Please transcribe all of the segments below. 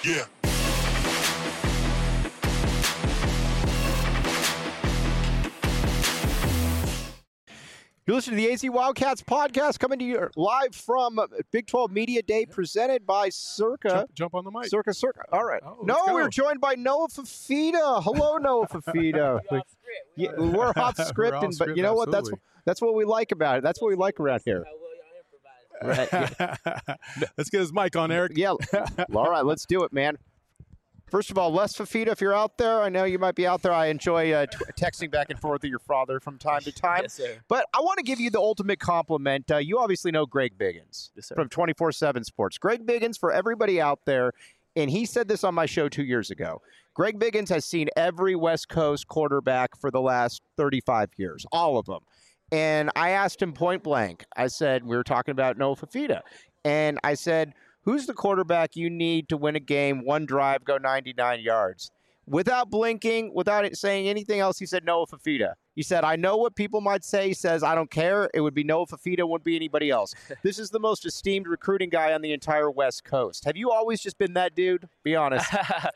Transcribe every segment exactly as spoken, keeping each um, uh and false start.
Yeah. You're listening to the A Z Wildcats podcast, coming to you live from Big twelve Media Day, presented by Circa. Jump, jump on the mic. Circa, Circa. All right. Oh, no, let's go. we're joined by Noah Fifita. Hello, Noah Fifita. Yeah, we're off script, We're off and, but script, you know what? That's absolutely. that's what we like about it. That's what we like around here. Right. Let's get his mic on, Eric. Yeah. All right, let's do it, man. First of all, Les Fifita, if you're out there, I know you might be out there. I enjoy uh, t- texting back and forth with your father from time to time. Yes, sir. But I want to give you the ultimate compliment. Uh, you obviously know Greg Biggins Yes, sir. from twenty-four seven Sports. Greg Biggins, for everybody out there, and he said this on my show two years ago, Greg Biggins has seen every West Coast quarterback for the last thirty-five years, all of them. And I asked him point blank. I said, we were talking about Noah Fifita, and I said, who's the quarterback you need to win a game, one drive, go ninety-nine yards? Without blinking, without it saying anything else, he said Noah Fifita. He said, I know what people might say. He says, I don't care. It would be Noah Fifita. It wouldn't be anybody else. This is the most esteemed recruiting guy on the entire West Coast. Have you always just been that dude? Be honest.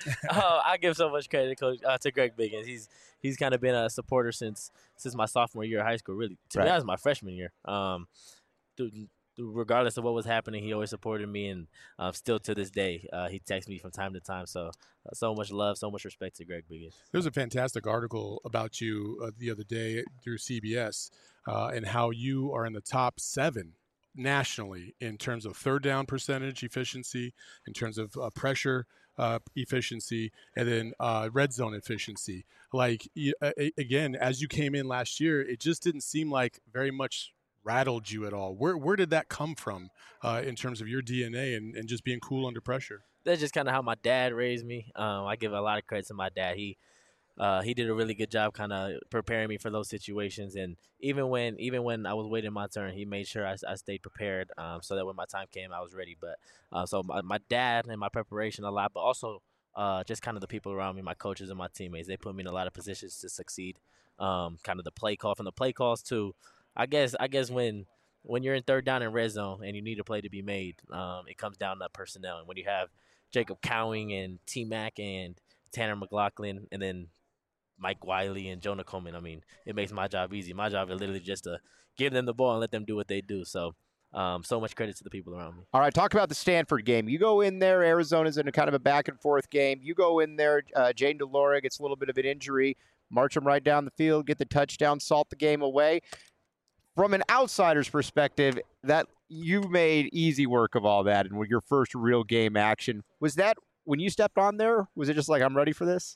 oh, I give so much credit to, Coach, uh, to Greg Biggins. He's he's kind of been a supporter since since my sophomore year of high school, really. To Right. be honest, my freshman year. Um, th- regardless of what was happening, he always supported me, and uh, still to this day, uh, he texts me from time to time. So, uh, so much love, so much respect to Greg Biggins. There's a fantastic article about you uh, the other day through C B S uh, and how you are in the top seven nationally in terms of third down percentage efficiency, in terms of uh, pressure uh, efficiency, and then uh, red zone efficiency. Like, y- a- again, as you came in last year, it just didn't seem like very much rattled you at all. Where where did that come from uh, in terms of your D N A and, and just being cool under pressure? That's just kind of how my dad raised me. Um, I give a lot of credit to my dad. He uh, he did a really good job kind of preparing me for those situations. And even when even when I was waiting my turn, he made sure I, I stayed prepared um, so that when my time came, I was ready. But uh, so my, my dad and my preparation a lot, but also uh, just kind of the people around me, my coaches and my teammates, they put me in a lot of positions to succeed. Um, kind of the play call from the play calls to, I guess I guess when when you're in third down and red zone and you need a play to be made, um, it comes down to personnel. And when you have Jacob Cowing and T Mac and Tanner McLaughlin and then Mike Wiley and Jonah Coleman, I mean, it makes my job easy. My job is literally just to give them the ball and let them do what they do. So, um, so much credit to the people around me. All right, talk about the Stanford game. You go in there, Arizona's in a kind of a back-and-forth game. You go in there, uh, Jaden DeLora gets a little bit of an injury, march him right down the field, get the touchdown, salt the game away. From an outsider's perspective, that you made easy work of all that and with your first real game action. Was that, when you stepped on there, was it just like, I'm ready for this?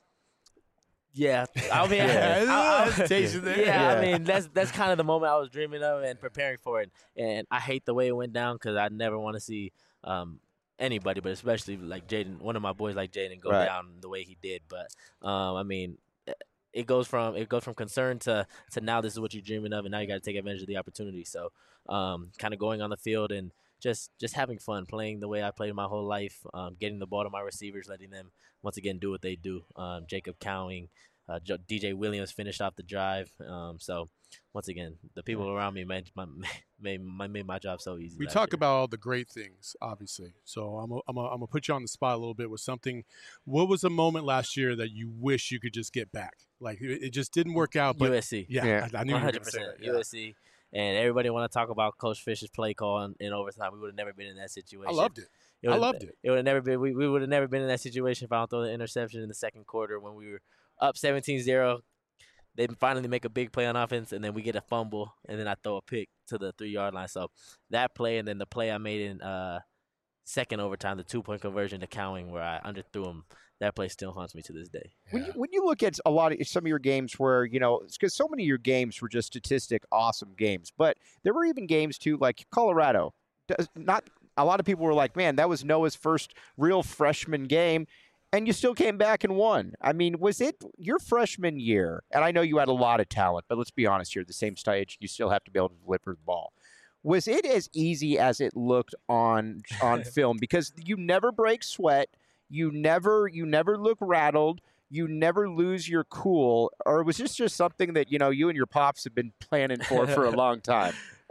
Yeah, I mean, Yeah, I- I- hesitation there. yeah, Yeah. I mean, that's that's kind of the moment I was dreaming of and preparing for it. And I hate the way it went down because I never want to see um, anybody, but especially like Jaden, one of my boys like Jaden, go Right. down the way he did. But um, I mean, it goes from it goes from concern to to now this is what you're dreaming of, and now you got to take advantage of the opportunity. So, um, kind of going on the field and just just having fun, playing the way I played my whole life, um, getting the ball to my receivers, letting them once again do what they do. Um, Jacob Cowing, uh, Jo- D J Williams finished off the drive. Um, so once again, the people around me made my made my, made my job so easy. We last talk year. about all the great things, obviously. So I'm a, I'm a, I'm gonna put you on the spot a little bit with something. What was a moment last year that you wish you could just get back? Like it, it just didn't work out. But U S C. yeah, Yeah. I, I knew you were one gonna hundred say percent that. Yeah. U S C. And everybody want to talk about Coach Fish's play call in, in overtime. We would have never been in that situation. I loved it. I would've- loved it. It would have never been. We, we would have never been in that situation if I don't throw the interception in the second quarter when we were up seventeen zero. They finally make a big play on offense, and then we get a fumble, and then I throw a pick to the three-yard line. So that play, and then the play I made in uh, second overtime, the two-point conversion to Cowing where I underthrew him, that play still haunts me to this day. When you, when you look at a lot of some of your games where, you know, because so many of your games were just statistic awesome games, but there were even games too, like Colorado. Does not a lot of people were like, man, that was Noah's first real freshman game, and you still came back and won. I mean, was it your freshman year? And I know you had a lot of talent, but let's be honest here, at the same stage, you still have to be able to deliver the ball. Was it as easy as it looked on on film? Because you never break sweat. You never you never look rattled. You never lose your cool. Or was this just something that, you know, you and your pops have been planning for for a long time?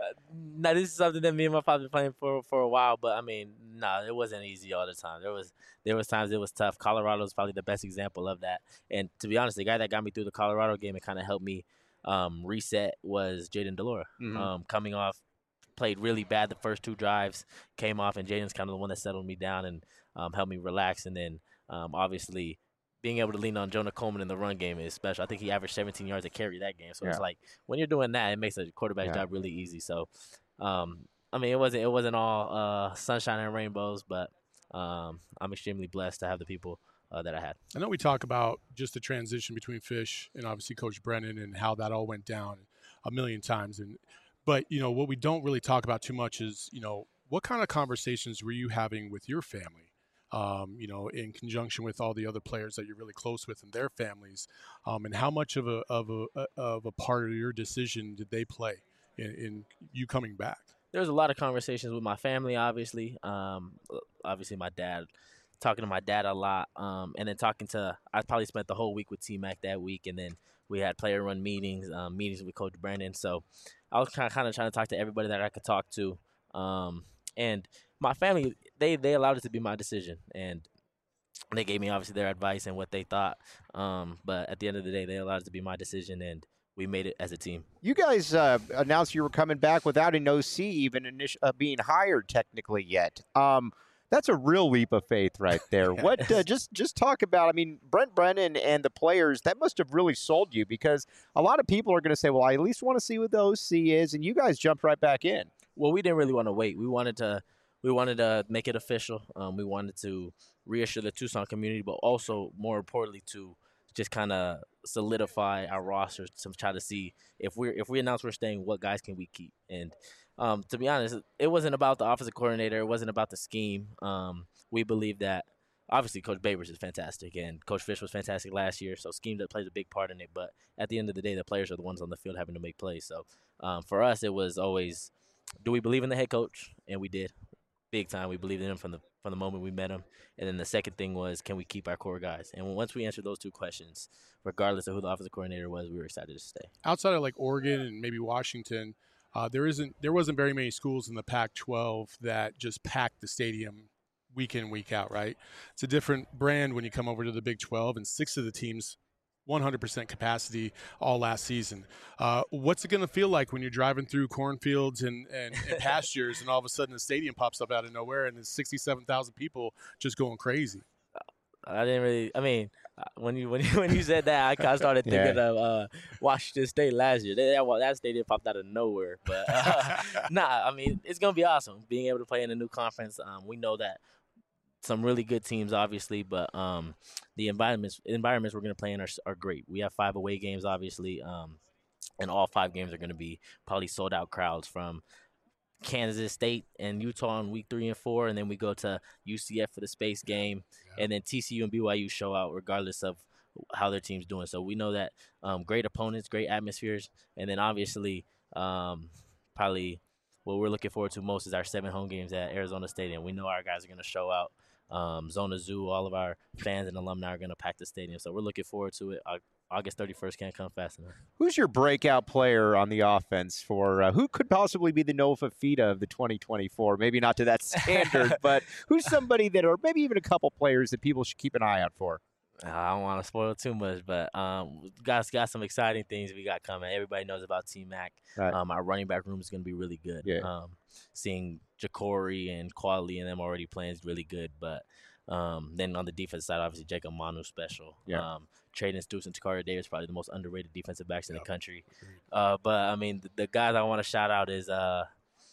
now this is something that me and my father been playing for for a while, but I mean, no, nah, it wasn't easy all the time. There was there was times it was tough. Colorado is probably the best example of that. And to be honest, the guy that got me through the Colorado game and kind of helped me um, reset was Jaden Delora. Mhm. Um, coming off, played really bad the first two drives, came off, and Jaden's kind of the one that settled me down and um, helped me relax. And then um, obviously being able to lean on Jonah Coleman in the run game is special. I think he averaged seventeen yards a carry that game. So Yeah. it's like when you're doing that, it makes a quarterback's Yeah. job really easy. So, um, I mean, it wasn't it wasn't all uh, sunshine and rainbows, but um, I'm extremely blessed to have the people uh, that I had. I know we talk about just the transition between Fish and obviously Coach Brennan and how that all went down a million times. And but you know what we don't really talk about too much is you know what kind of conversations were you having with your family? Um, you know, in conjunction with all the other players that you're really close with and their families, um, and how much of a of a of a part of your decision did they play in, in you coming back? There was a lot of conversations with my family, obviously. Um, obviously, my dad, talking to my dad a lot, um, and then talking to. I probably spent the whole week with T-Mac that week, and then we had player run meetings, um, meetings with Coach Brandon. So I was kind of kind of trying to talk to everybody that I could talk to, um, and my family, they they allowed it to be my decision, and they gave me obviously their advice and what they thought. Um, but at the end of the day, they allowed it to be my decision, and we made it as a team. You guys uh, announced you were coming back without an O C even initi- uh, being hired technically yet. Um, that's a real leap of faith right there. What uh, just just talk about? I mean, Brent Brennan and the players, that must have really sold you, because a lot of people are going to say, "Well, I at least want to see what the O C is," and you guys jumped right back in. Well, we didn't really want to wait. We wanted to. We wanted to make it official. Um, we wanted to reassure the Tucson community, but also, more importantly, to just kind of solidify our roster to try to see if we're if we announce we're staying, what guys can we keep. And um, to be honest, it wasn't about the offensive coordinator. It wasn't about the scheme. Um, we believe that obviously Coach Babers is fantastic, and Coach Fish was fantastic last year. So scheme that plays a big part in it. But at the end of the day, the players are the ones on the field having to make plays. So um, for us, it was always, do we believe in the head coach? And we did. Big time. We believed in him from the from the moment we met him. And then the second thing was, can we keep our core guys? And once we answered those two questions, regardless of who the offensive coordinator was, we were excited to stay. Outside of like Oregon and maybe Washington, uh, there isn't there wasn't very many schools in the Pac twelve that just packed the stadium week in, week out, right? It's a different brand when you come over to the Big twelve, and six of the teams one hundred percent capacity all last season. Uh, what's it going to feel like when you're driving through cornfields and, and, and pastures and all of a sudden the stadium pops up out of nowhere and there's sixty-seven thousand people just going crazy? I didn't really. I mean, when you when you when you said that, I kind of started thinking yeah. of uh, Washington State last year. That, that stadium popped out of nowhere. But uh, nah, I mean, it's gonna be awesome being able to play in a new conference. Um, we know that some really good teams, obviously, but um, the environments environments we're going to play in are, are great. We have five away games, obviously, um, and all five games are going to be probably sold-out crowds, from Kansas State and Utah in week three and four, and then we go to U C F for the space game, yeah. and then T C U and B Y U show out regardless of how their team's doing. So we know that um, great opponents, great atmospheres, and then obviously um, probably what we're looking forward to most is our seven home games at Arizona Stadium. We know our guys are going to show out. Um, Zona Zoo, all of our fans and alumni are going to pack the stadium. So we're looking forward to it. Uh, August thirty-first can't come fast enough. Who's your breakout player on the offense for uh, who could possibly be the Noah Fifita of the twenty twenty-four? Maybe not to that standard, but who's somebody that, or maybe even a couple players that people should keep an eye out for? I don't want to spoil too much, but um, guys got some exciting things we got coming. Everybody knows about T-Mac. Right. Um, our running back room is going to be really good. Yeah. Um, seeing Jacory and Quali and them already playing is really good. But um, then on the defense side, obviously Jacob Manu special. Yeah. Um, Traden Stoops and Takaria Davis, probably the most underrated defensive backs in yep. the country. Uh, but I mean, the, the guys I want to shout out is uh,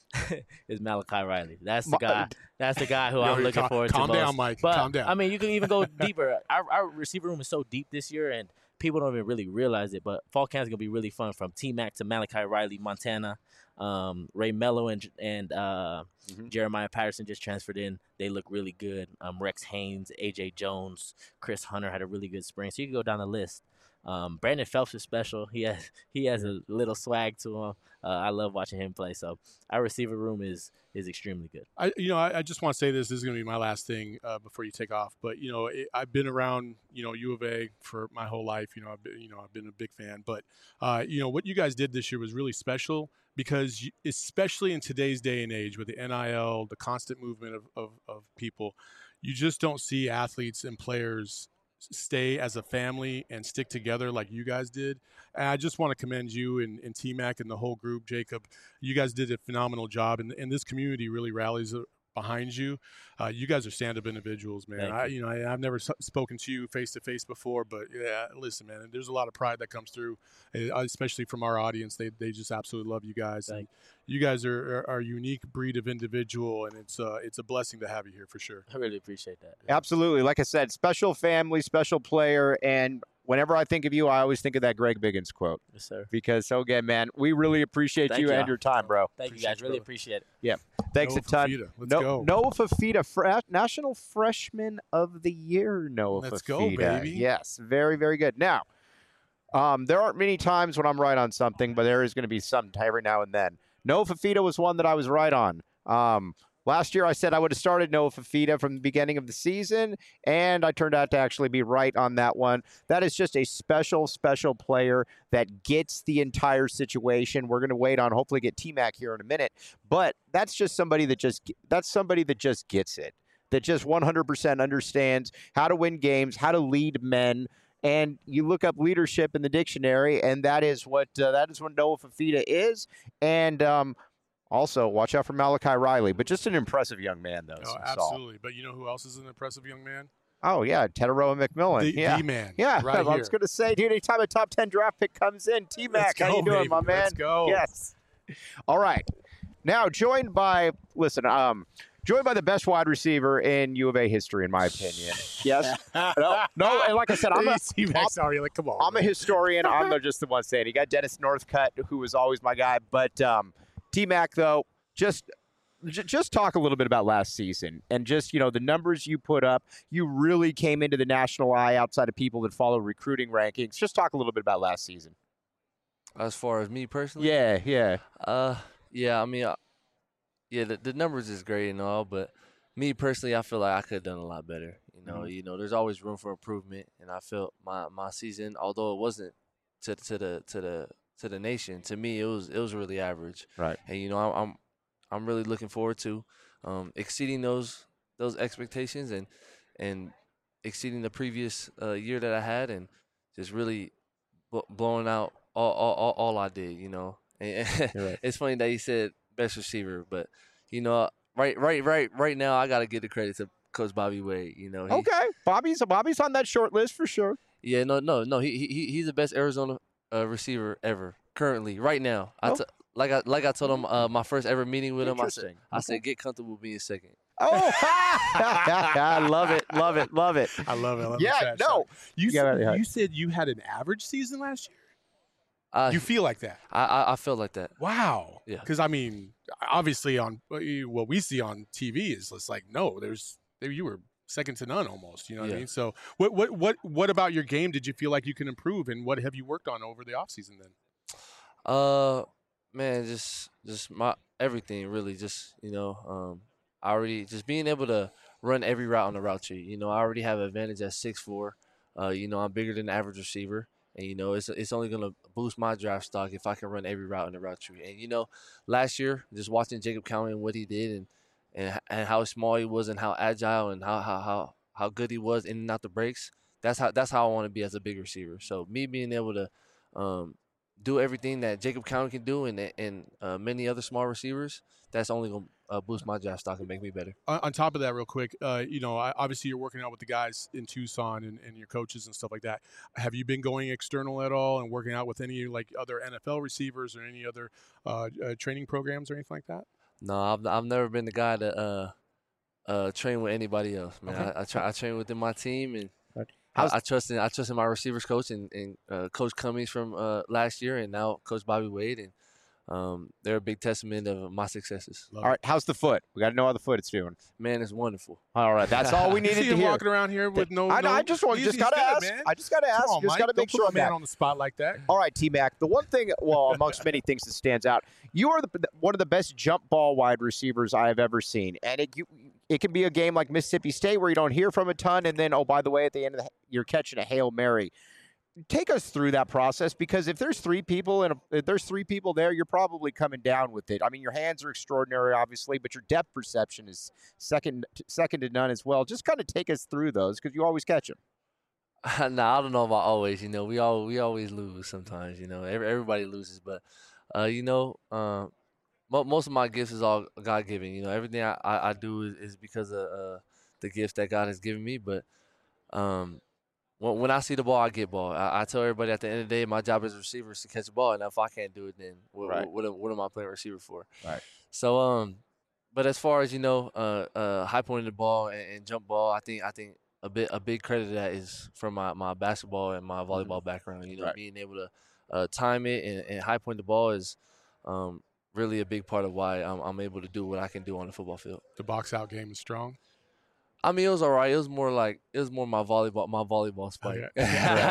is Malachi Riley. That's the guy. That's the guy who Yo, I'm looking calm, forward calm to down, most. Mike. But, calm down. I mean, you can even go deeper. Our, our receiver room is so deep this year, and people don't even really realize it. But fall camp is gonna be really fun, from T-Mac to Malachi Riley, Montana, um, Ray Mello, and and uh, mm-hmm. Jeremiah Patterson just transferred in. They look really good. Um, Rex Haynes, A J Jones, Chris Hunter had a really good spring. So you can go down the list. Um, Brandon Phelps is special. He has he has a little swag to him. Uh, I love watching him play. So our receiver room is is extremely good. I, you know, I, I just want to say this. This is going to be my last thing uh, before you take off. But you know, it, I've been around, you know, U of A for my whole life. You know, I've been, you know, I've been a big fan. But uh, you know, what you guys did this year was really special because, you, especially in today's day and age with the N I L, the constant movement of, of, of people, you just don't see athletes and players stay as a family and stick together like you guys did. And I just want to commend you and, and T-Mac and the whole group, Jacob. You guys did a phenomenal job, and, and this community really rallies behind you. Uh, you guys are stand-up individuals, man. Thank I, you. you know, I, I've never s- spoken to you face-to-face before, but yeah, listen, man, there's a lot of pride that comes through, uh, especially from our audience. They they just absolutely love you guys. Thank And you guys are, are, are a unique breed of individual, and it's uh, it's a blessing to have you here for sure. I really appreciate that. Absolutely. Like I said, special family, special player. And whenever I think of you, I always think of that Greg Biggins quote. Yes, sir. Because, so again, man, we really appreciate Thank you you. and your time, bro. Thank Appreciate you guys. you, Really brother. appreciate it. Thanks Noah a ton. Fafita. Let's no, go. Noah Fafita, fre- National Freshman of the Year, Noah Let's Fafita. go, baby. Yes, very, very good. Now, um, there aren't many times when I'm right on something, but there is going to be some every now and then. Noah Fafita was one that I was right on. Um, last year, I said I would have started Noah Fafita from the beginning of the season, and I turned out to actually be right on that one. That is just a special, special player that gets the entire situation. We're going to wait on, hopefully get T-Mac here in a minute, but that's just somebody that just that's somebody that just gets it, that just one hundred percent understands how to win games, how to lead men. And you look up leadership in the dictionary, and that is what uh, that is what Noah Fafita is. And um, also, watch out for Malachi Riley, but just an impressive young man, though. Oh, Saul. absolutely. But you know who else is an impressive young man? Oh yeah, Tetaroa McMillan. The, yeah, the man. yeah. Right I here. was going to say, dude, anytime a top ten draft pick comes in, T-Mac, Let's how you go, doing, baby. my man? Let's go. Yes. All right. Now joined by listen, um, joined by the best wide receiver in U of A history, in my opinion. Yes. No, no, and like I said, I'm a, T-Mac, sorry, like, come on. I'm a man. historian. I'm not just the one saying it. You got Dennis Northcutt, who was always my guy. But um, T-Mac, though, just j- just talk a little bit about last season and just, you know, the numbers you put up. You really came into the national eye outside of people that follow recruiting rankings. Just talk a little bit about last season. As far as me personally, Yeah, yeah. uh, yeah, I mean, uh, yeah, the, the numbers is great and all, but me personally, I feel like I could have done a lot better. You know, Mhm. you know, there's always room for improvement, and I felt my, my season, although it wasn't to to the to the to the nation, to me, it was it was really average. Right. And you know, I'm I'm, I'm really looking forward to um, exceeding those those expectations and and exceeding the previous uh, year that I had, and just really bl- blowing out all, all all all I did. You know, and You're right. it's funny that you said best receiver, but you know, right right right right now, I got to give the credit to Coach Bobby Wade. You know, he, Okay. Bobby's Bobby's on that short list for sure. yeah, no, no, no. He he he's the best Arizona uh, receiver ever currently, right now. I Oh. t- like I like I told him uh, my first ever meeting with him. I said Interesting. I Okay. said get comfortable being second. Oh, I love it, love it, love it. I love it. I love Yeah, the trash no. talk. You, Yeah, said, yeah. you said you had an average season last year? I You feel like that? I I, I felt like that. Wow. Yeah. Because, I mean, obviously on what we see on T V is it's like, no, there's there you were second to none almost. You know what I Yeah. mean? So what what what what about your game did you feel like you can improve, and what have you worked on over the offseason then? Uh, man, just just my everything really. Just you know, um, I already just being able to run every route on the route tree. You know, I already have an advantage at six four. Uh, you know, I'm bigger than the average receiver, and you know, it's it's only gonna boost my draft stock if I can run every route on the route tree. And you know, last year, just watching Jacob County and what he did, and and and how small he was, and how agile, and how how how how good he was in and out the breaks. That's how that's how I want to be as a big receiver. So me being able to um, do everything that Jacob County can do, and and uh, many other small receivers, that's only gonna uh, boost my draft stock and make me better. On, on top of that, real quick, uh, you know, I, obviously you're working out with the guys in Tucson and, and your coaches and stuff like that. Have you been going external at all and working out with any like other N F L receivers or any other uh, uh, training programs or anything like that? No, I've I've never been the guy to uh, uh, train with anybody else, man. Okay. I I, try, I train within my team, and Right. I, How's- I trust in I trust in my receivers coach and, and uh, Coach Cummings from uh, last year, and now Coach Bobby Wade, and um, they're a big testament of my successes. Love All it. right, how's the foot? We got to know how the foot is doing. Man, it's wonderful. All right, that's all we You needed see to him hear. walking around here with no. I, no, I just want, he's- just he's got to good, ask. man. I just got to ask. Come on, just Mike. got to Don't make put sure my I'm man back. on the spot like that. All right, T-Mac, the one thing, well, amongst many things that stands out, you are the, one of the best jump ball wide receivers I have ever seen. And it, you, it can be a game like Mississippi State where you don't hear from a ton, and then, oh, by the way, at the end of the, you're catching a Hail Mary. Take us through that process, because if there's three people and if there's three people there, you're probably coming down with it. I mean, your hands are extraordinary, obviously, but your depth perception is second second to none as well. Just kind of take us through those, because you always catch them. Nah, I don't know about always. You know, we all we always lose sometimes. You know, Every, everybody loses, but uh, you know, uh, mo- most of my gifts is all God given. You know, everything I, I, I do is, is because of uh, the gifts that God has given me. But um, when, when I see the ball, I get ball. I, I tell everybody at the end of the day, my job as a receiver is to catch the ball, and if I can't do it, then what Right. what, what, am, what am I playing receiver for? Right. So um, but as far as you know, uh, uh, high pointing the ball and, and jump ball, I think I think. A bit, a big credit to that is from my, my basketball and my volleyball background. You know, Right. being able to uh, time it and, and high point the ball is um, really a big part of why I'm, I'm able to do what I can do on the football field. The box out game is strong. I mean, it was all right. It was more like it was more my volleyball, my volleyball spike. Okay.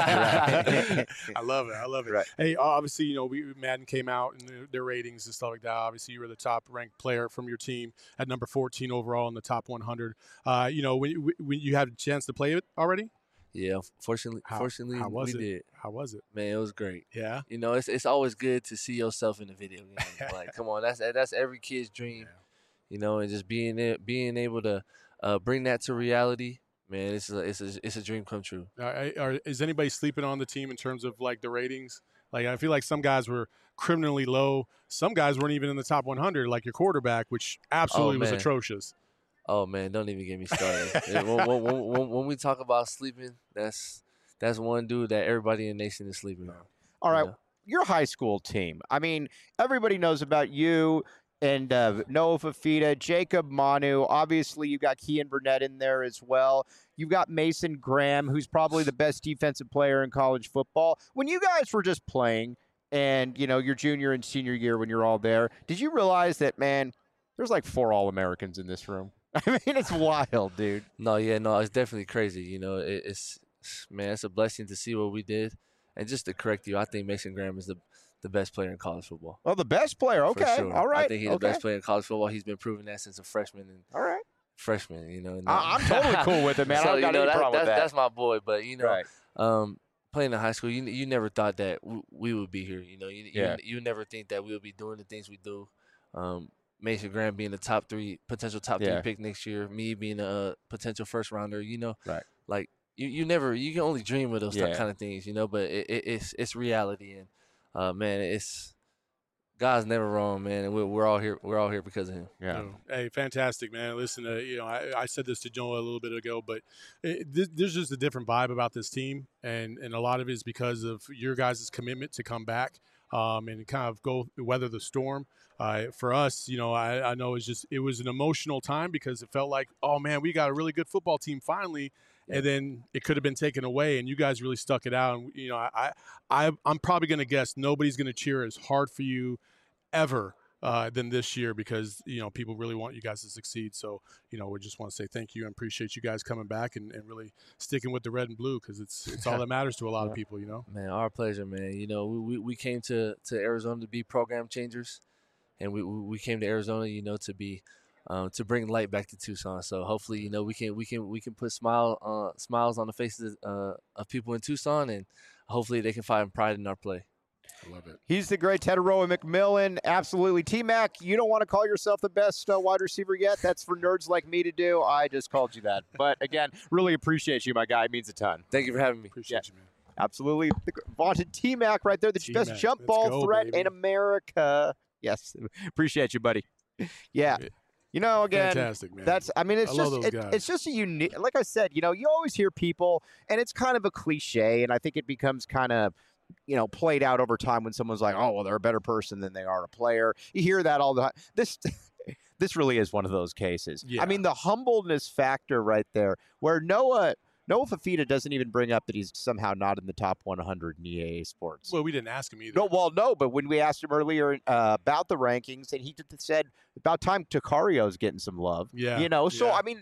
Right, right. I love it. I love it. Right. Hey, obviously, you know, we Madden came out and their, their ratings and stuff like that. Obviously, you were the top ranked player from your team at number fourteen overall in the top one hundred. Uh, you know, when, you- when you had a chance to play it already, Yeah, fortunately, How- fortunately, how was we it? did. how was it? Man, it was great. Yeah. You know, it's it's always good to see yourself in the video game. Like, come on, that's that's every kid's dream. Yeah. You know, and just being it, being able to uh, bring that to reality, man, it's a, it's a it's a dream come true. Are, are, is anybody sleeping on the team in terms of like the ratings? Like, I feel like some guys were criminally low. Some guys weren't even in the top one hundred, like your quarterback, which absolutely was man. atrocious. Oh man, don't even get me started. Yeah, when, when, when, when, when we talk about sleeping, that's that's one dude that everybody in the nation is sleeping on. All right, you know? your high school team. I mean, everybody knows about you and uh, Noah Fafita, Jacob Manu. Obviously, you got Kean Burnett in there as well. You've got Mason Graham, who's probably the best defensive player in college football. When you guys were just playing, and you know your junior and senior year when you're all there, did you realize that, man, there's like four All-Americans in this room? I mean, it's wild, dude. No, yeah, no, it's definitely crazy. You know, it, it's man, it's a blessing to see what we did, and just to correct you, I think Mason Graham is the the best player in college football. Oh, the best player. for Okay, sure. all right. I think he's okay. the best player in college football. He's been proving that since a freshman and All right. freshman. You know, and I- I'm totally cool with it, man. I So, don't you got know, any that- problem with that's, that. That's my boy, but you know, Right. um, playing in high school, you you never thought that w- we would be here. You know, you, Yeah. you you never think that we would be doing the things we do. Um, Mason Graham being the top three, potential top Yeah. three pick next year, me being a potential first rounder. You know, Right. Like you, you never, you can only dream of those Yeah. kind of things. You know, but it, it, it's it's reality, and uh, man, it's God's never wrong, man, and we're, we're all here. We're all here because of him. Yeah. No. Hey, fantastic, man. Listen, uh, you know, I, I said this to Joe a little bit ago, but it, this, there's just a different vibe about this team, and and a lot of it is because of your guys' commitment to come back um, and kind of go weather the storm. Uh, for us, you know, I, I know it's just it was an emotional time because it felt like, oh man, we got a really good football team finally. And then it could have been taken away, and you guys really stuck it out. And you know, I, I I'm probably going to guess nobody's going to cheer as hard for you ever uh, than this year because you know people really want you guys to succeed. So you know, we just want to say thank you and appreciate you guys coming back and, and really sticking with the red and blue because it's it's all that matters to a lot of people. You know, Man, our pleasure, man. You know, we, we, we came to, to Arizona to be program changers, and we we we came to Arizona, you know, to be um, to bring light back to Tucson. So hopefully, you know, we can we can we can put smile uh, smiles on the faces uh, of people in Tucson, and hopefully they can find pride in our play. I love it. He's the great Tetaroa McMillan. Absolutely. T-Mac, you don't want to call yourself the best uh, wide receiver yet. That's for nerds like me to do. I just called you that. But, again, really appreciate you, my guy. It means a ton. Thank you for having me. Appreciate you, man. Absolutely. The vaunted T-Mac right there, the T-Mac. best jump Let's ball go, threat baby. in America. Yes. Appreciate you, buddy. Yeah. You know, again, Fantastic, man. that's, I mean, it's I love just, those it, guys. it's just a unique, like I said, you know, you always hear people, and it's kind of a cliche, and I think it becomes kind of, you know, played out over time when someone's like, oh, well, they're a better person than they are a player. You hear that all the time. This, this really is one of those cases. Yeah. I mean, the humbleness factor right there, where Noah, Noah Fafita doesn't even bring up that he's somehow not in the top one hundred in E A A sports. Well, we didn't ask him either. No, well, no, but when we asked him earlier uh, about the rankings, and he t- said about time Tacario's getting some love. Yeah. You know, so, yeah. I mean,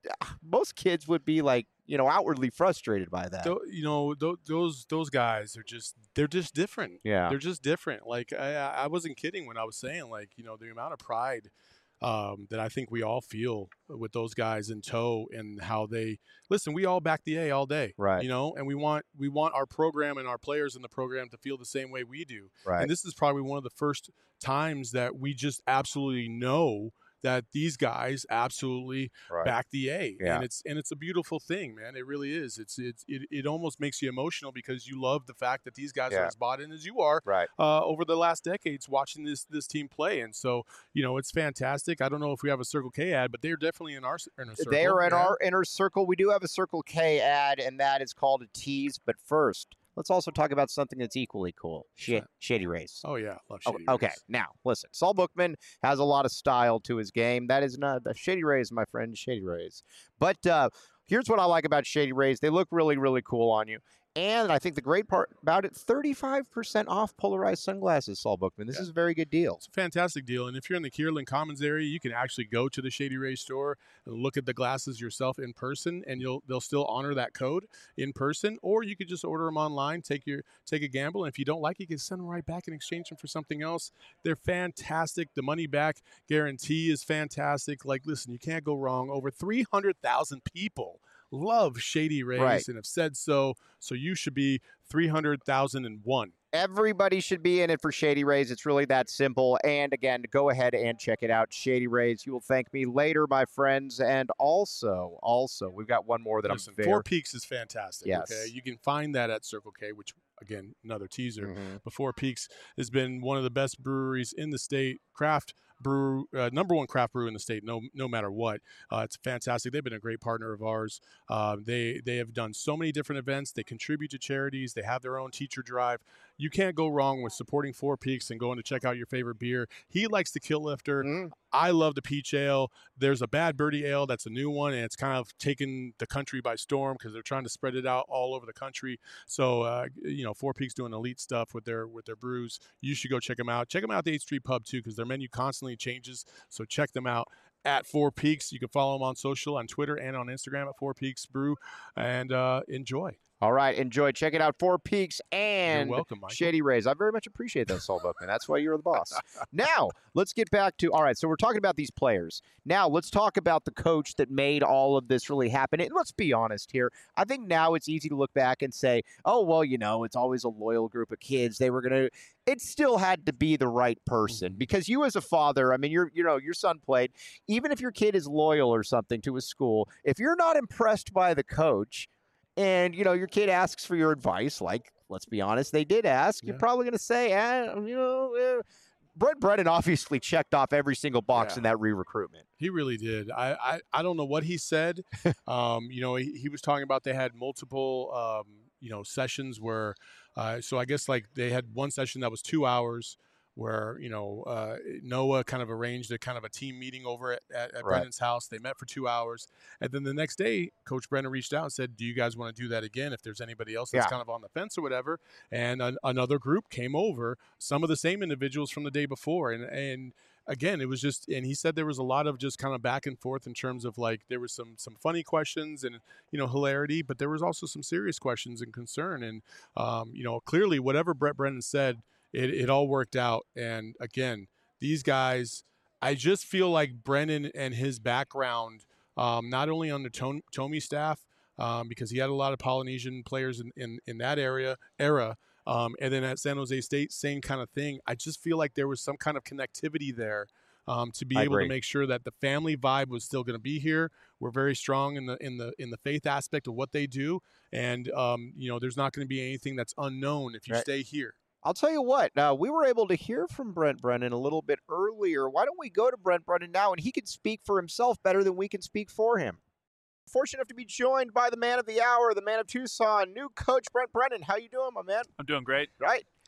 most kids would be like, you know, outwardly frustrated by that. Tho- you know, th- those those guys are just they're just different. Yeah. They're just different. Like I, I wasn't kidding when I was saying, like, you know, the amount of pride um, that I think we all feel with those guys in tow, and how they listen. We all back the A all day, Right. You know, and we want we want our program and our players in the program to feel the same way we do. Right. And this is probably one of the first times that we just absolutely know that these guys absolutely Right. back the A, Yeah. and it's and it's a beautiful thing, man. It really is. It's it's it, it almost makes you emotional because you love the fact that these guys Yeah. are as bought in as you are Right. uh, over the last decades watching this this team play, and so you know it's fantastic. I don't know if we have a Circle K ad, but they're definitely in our inner circle. They are in yeah. our inner circle. We do have a Circle K ad, and that is called a tease. But first, let's also talk about something that's equally cool. Sh- Shady Rays. Oh yeah, love Oh, Shady okay, Rays. now listen. Saul Bookman has a lot of style to his game. That is not the Shady Rays, my friend. Shady Rays. But uh, here's what I like about Shady Rays. They look really, really cool on you. And I think the great part about it, thirty-five percent off polarized sunglasses, Saul Bookman. This Yeah. is a very good deal. It's a fantastic deal, and if you're in the Kierland Commons area, you can actually go to the Shady Rays store and look at the glasses yourself in person, and you'll they'll still honor that code in person, or you could just order them online, take your take a gamble, and if you don't like it, you can send them right back and exchange them for something else. They're fantastic. The money back guarantee is fantastic. Like, listen, you can't go wrong. Over three hundred thousand people love Shady Rays Right. and have said so, so you should be three hundred thousand one. Everybody should be in it for Shady Rays. It's really that simple. And again, go ahead and check it out. Shady Rays. You will thank me later, my friends. And also, also, we've got one more that Listen, I'm very. Four Peaks is fantastic. Yes. Okay, you can find that at Circle K, which again, another teaser. Mhm. But Four Peaks has been one of the best breweries in the state. Craft brew, uh, number one craft brew in the state. No, no matter what, uh, it's fantastic. They've been a great partner of ours. Uh, they they have done so many different events. They contribute to charities. They have their own teacher drive. You can't go wrong with supporting Four Peaks and going to check out your favorite beer. He likes the Kill Lifter. Mm. I love the Peach Ale. There's a Bad Birdie Ale that's a new one, and it's kind of taken the country by storm because they're trying to spread it out all over the country. So, uh, you know, Four Peaks doing elite stuff with their with their brews. You should go check them out. Check them out at the eighth Street Pub too, because their menu constantly changes. So check them out at Four Peaks. You can follow them on social, on Twitter, and on Instagram at Four Peaks Brew, and uh, enjoy. All right, enjoy. Check it out. Four Peaks and You're welcome, Michael. Shady Rays. I very much appreciate that, Saul Bookman. That's why you're the boss. Now, let's get back to, all right, so we're talking about these players. Now, let's talk about the coach that made all of this really happen. And let's be honest here. I think now it's easy to look back and say, oh, well, you know, it's always a loyal group of kids. They were going to, it still had to be the right person because you as a father, I mean, you're, you know, your son played, even if your kid is loyal or something to a school, if you're not impressed by the coach, and, you know, your kid asks for your advice, like, let's be honest, they did ask. Yeah. You're probably going to say, eh, you know, eh. Brent Brennan obviously checked off every single box Yeah. in that re-recruitment. He really did. I, I, I don't know what he said. um, you know, he, he was talking about they had multiple, um, you know, sessions where, uh, so I guess like they had one session that was two hours where, you know, uh, Noah kind of arranged a kind of a team meeting over at, at, at Right. Brennan's house. They met for two hours. And then the next day, Coach Brennan reached out and said, do you guys want to do that again if there's anybody else that's Yeah. kind of on the fence or whatever? And an, another group came over, some of the same individuals from the day before. And, and again, it was just, and he said there was a lot of just kind of back and forth in terms of like, there was some, some funny questions and, you know, hilarity, but there was also some serious questions and concern. And, um, you know, clearly whatever Brett Brennan said, It, it all worked out. And again, these guys, I just feel like Brennan and his background, um, not only on the Tom, Tommy staff, um, because he had a lot of Polynesian players in, in, in that area era, um, and then at San Jose State, same kind of thing. I just feel like there was some kind of connectivity there um, to be I able agree. to make sure that the family vibe was still going to be here. We're very strong in the in the in the faith aspect of what they do, and um, you know, there's not going to be anything that's unknown if you Right. stay here. I'll tell you what, uh, we were able to hear from Brent Brennan a little bit earlier. Why don't we go to Brent Brennan now, and he can speak for himself better than we can speak for him. Fortunate enough to be joined by the man of the hour, the man of Tucson, new coach Brent Brennan. How you doing, my man? I'm doing great. Right?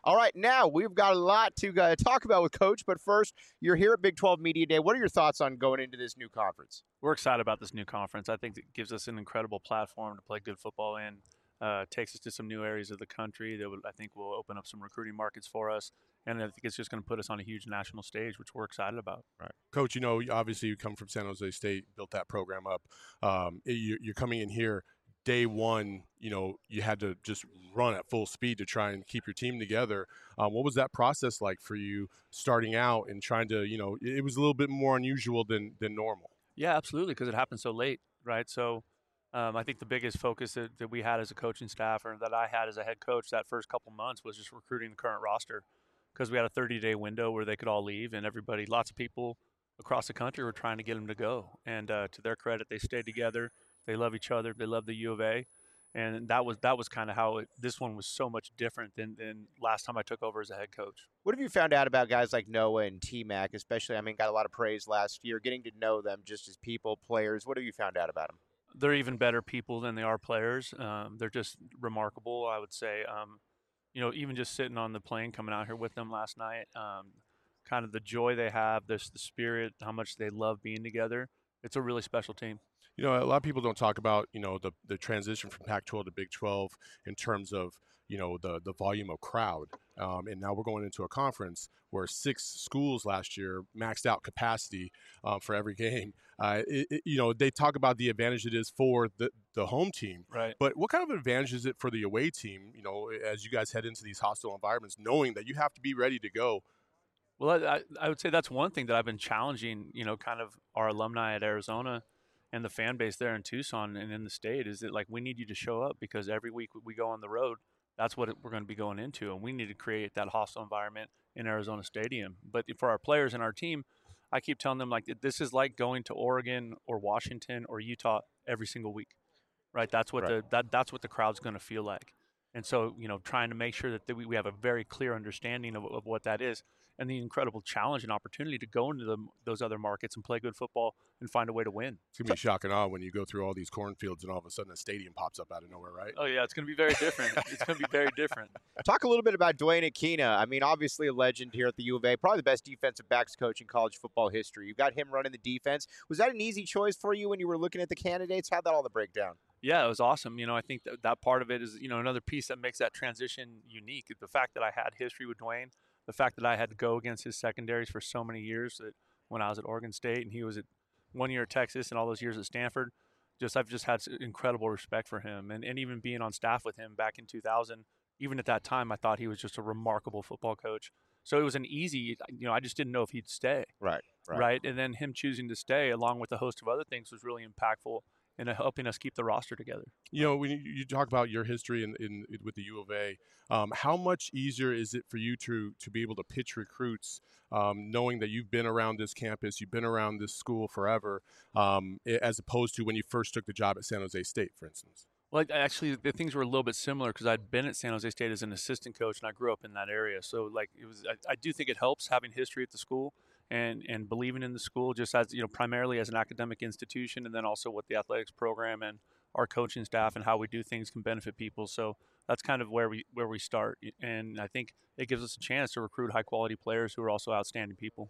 All right, now we've got a lot to uh, talk about with Coach, but first, you're here at Big twelve Media Day. What are your thoughts on going into this new conference? We're excited about this new conference. I think it gives us an incredible platform to play good football in. Uh, takes us to some new areas of the country that would, I think will open up some recruiting markets for us. And I think it's just going to put us on a huge national stage, which we're excited about. Right. Coach, you know, obviously you come from San Jose State, built that program up. Um, you, you're coming in here day one, you know, you had to just run at full speed to try and keep your team together. Um, what was that process like for you starting out and trying to, you know, it was a little bit more unusual than, than normal? Yeah, absolutely, because it happened so late, right? So um, I think the biggest focus that, that we had as a coaching staff or that I had as a head coach that first couple months was just recruiting the current roster, because we had a thirty-day window where they could all leave, and everybody, lots of people across the country were trying to get them to go. And uh, to their credit, they stayed together. They love each other. They love the U of A. And that was that was kind of how it, this one was so much different than, than last time I took over as a head coach. What have you found out about guys like Noah and T-Mac, especially? I mean, got a lot of praise last year, getting to know them just as people, players. What have you found out about them? They're even better people than they are players. Um, they're just remarkable, I would say. Um, you know, even just sitting on the plane coming out here with them last night, um, kind of the joy they have, this the spirit, how much they love being together. It's a really special team. You know, a lot of people don't talk about, you know, the, the transition from Pac twelve to Big twelve in terms of, you know, the, the volume of crowd. Um, and now we're going into a conference where six schools last year maxed out capacity um, for every game. Uh, it, it, you know, they talk about the advantage it is for the, the home team. Right. But what kind of advantage is it for the away team, you know, as you guys head into these hostile environments, knowing that you have to be ready to go? Well, I, I would say that's one thing that I've been challenging, you know, kind of our alumni at Arizona and the fan base there in Tucson and in the state, is that, like, we need you to show up, because every week we go on the road, that's what we're going to be going into, and we need to create that hostile environment in Arizona Stadium. But for our players and our team, I keep telling them, like, this is like going to Oregon or Washington or Utah every single week, right? That's what Right. the that that's what the crowd's going to feel like. And so, you know, trying to make sure that we, we have a very clear understanding of, of what that is, and the incredible challenge and opportunity to go into the, those other markets and play good football and find a way to win. It's going to be shock and awe when you go through all these cornfields and all of a sudden a stadium pops up out of nowhere, right? Oh, yeah, it's going to be very different. It's going to be very different. Talk a little bit about Dwayne Aquina. I mean, obviously a legend here at the U of A, probably the best defensive backs coach in college football history. You've got him running the defense. Was that an easy choice for you when you were looking at the candidates? How'd that all the breakdown? Yeah, it was awesome. You know, I think that, that part of it is, you know, another piece that makes that transition unique. The fact that I had history with Dwayne, the fact that I had to go against his secondaries for so many years, that when I was at Oregon State and he was at one year at Texas and all those years at Stanford, just I've just had incredible respect for him. And, and even being on staff with him back in two thousand, even at that time, I thought he was just a remarkable football coach. So it was an easy, you know, I just didn't know if he'd stay. Right, right. Right. And then him choosing to stay, along with a host of other things, was really impactful in helping us keep the roster together. You know, when you, you talk about your history in, in, in with the U of A, um, how much easier is it for you to to be able to pitch recruits, um, knowing that you've been around this campus, you've been around this school forever, um, as opposed to when you first took the job at San Jose State, for instance? Well, actually, the things were a little bit similar, because I'd been at San Jose State as an assistant coach, and I grew up in that area. So, like, it was. I, I do think it helps having history at the school and and believing in the school, just as, you know, primarily as an academic institution, and then also what the athletics program and our coaching staff and how we do things can benefit people. So that's kind of where we where we start, and I think it gives us a chance to recruit high quality players who are also outstanding people.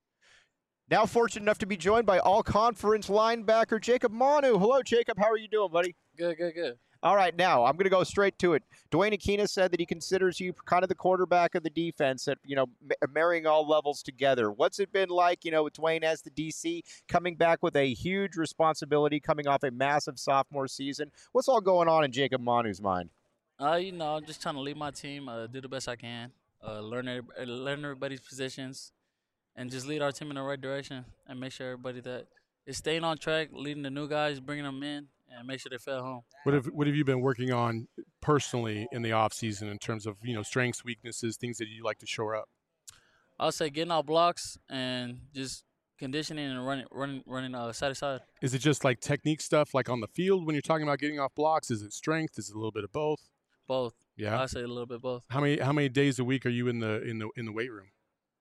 Now fortunate enough to be joined by all-conference linebacker Jacob Manu. Hello, Jacob. How are you doing, buddy? Good, good, good. All right, now I'm going to go straight to it. Dwayne Aquina said that he considers you kind of the quarterback of the defense, at, you know, marrying all levels together. What's it been like, you know, with Dwayne as the D C, coming back with a huge responsibility, coming off a massive sophomore season? What's all going on in Jacob Manu's mind? Uh, you know, I'm just trying to lead my team, uh, do the best I can, uh, learn every, learn everybody's positions, and just lead our team in the right direction, and make sure everybody that is staying on track, leading the new guys, bringing them in, and make sure they feel at home. What have what have you been working on personally in the off season in terms of, you know, strengths, weaknesses, things that you like to shore up? I'll say getting out blocks and just conditioning and running, running, running uh, side to side. Is it just like technique stuff, like on the field when you're talking about getting off blocks? Is it strength? Is it a little bit of both? Both. Yeah. I'll say a little bit both. How many how many days a week are you in the in the in the weight room?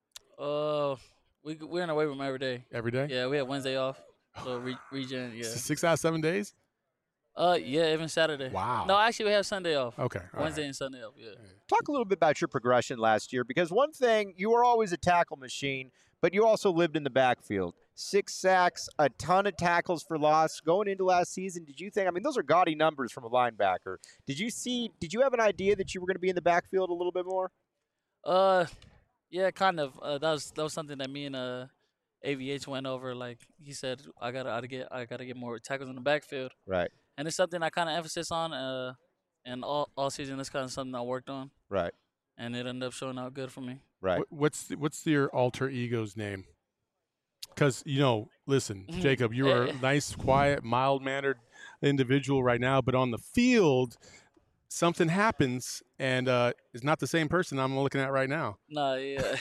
Uh, we we're in the weight room every day. Every day? Yeah, we have Wednesday off, so re- regen. Yeah. Six out of seven days. Uh, yeah, even Saturday. Wow. No, actually, we have Sunday off. Okay. all Wednesday right. and Sunday off. Yeah. Talk a little bit about your progression last year, because one thing, you were always a tackle machine, but you also lived in the backfield. Six sacks, a ton of tackles for loss. Going into last season, did you think, I mean, those are gaudy numbers from a linebacker. Did you see, did you have an idea that you were going to be in the backfield a little bit more? Uh, yeah, kind of. Uh, that was that was something that me and uh, A V H went over. Like he said, I gotta, I gotta get, I gotta get more tackles in the backfield, Right, and it's something I kind of emphasis on. Uh, and all all season, it's kind of something I worked on, right, and it ended up showing out good for me. right. What, what's what's your alter ego's name? Because you know, listen, Mhm. Jacob, you are a Eh. nice, quiet, mild-mannered individual right now, but on the field, something happens, and uh, it's not the same person I'm looking at right now. Nah, yeah.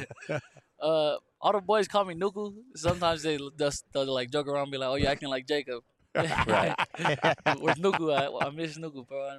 uh, all the boys call me Nuku. Sometimes they just they'll like joke around, and be like, "Oh, you acting like Jacob." Right. With Nuku, I, I miss Nuku, bro.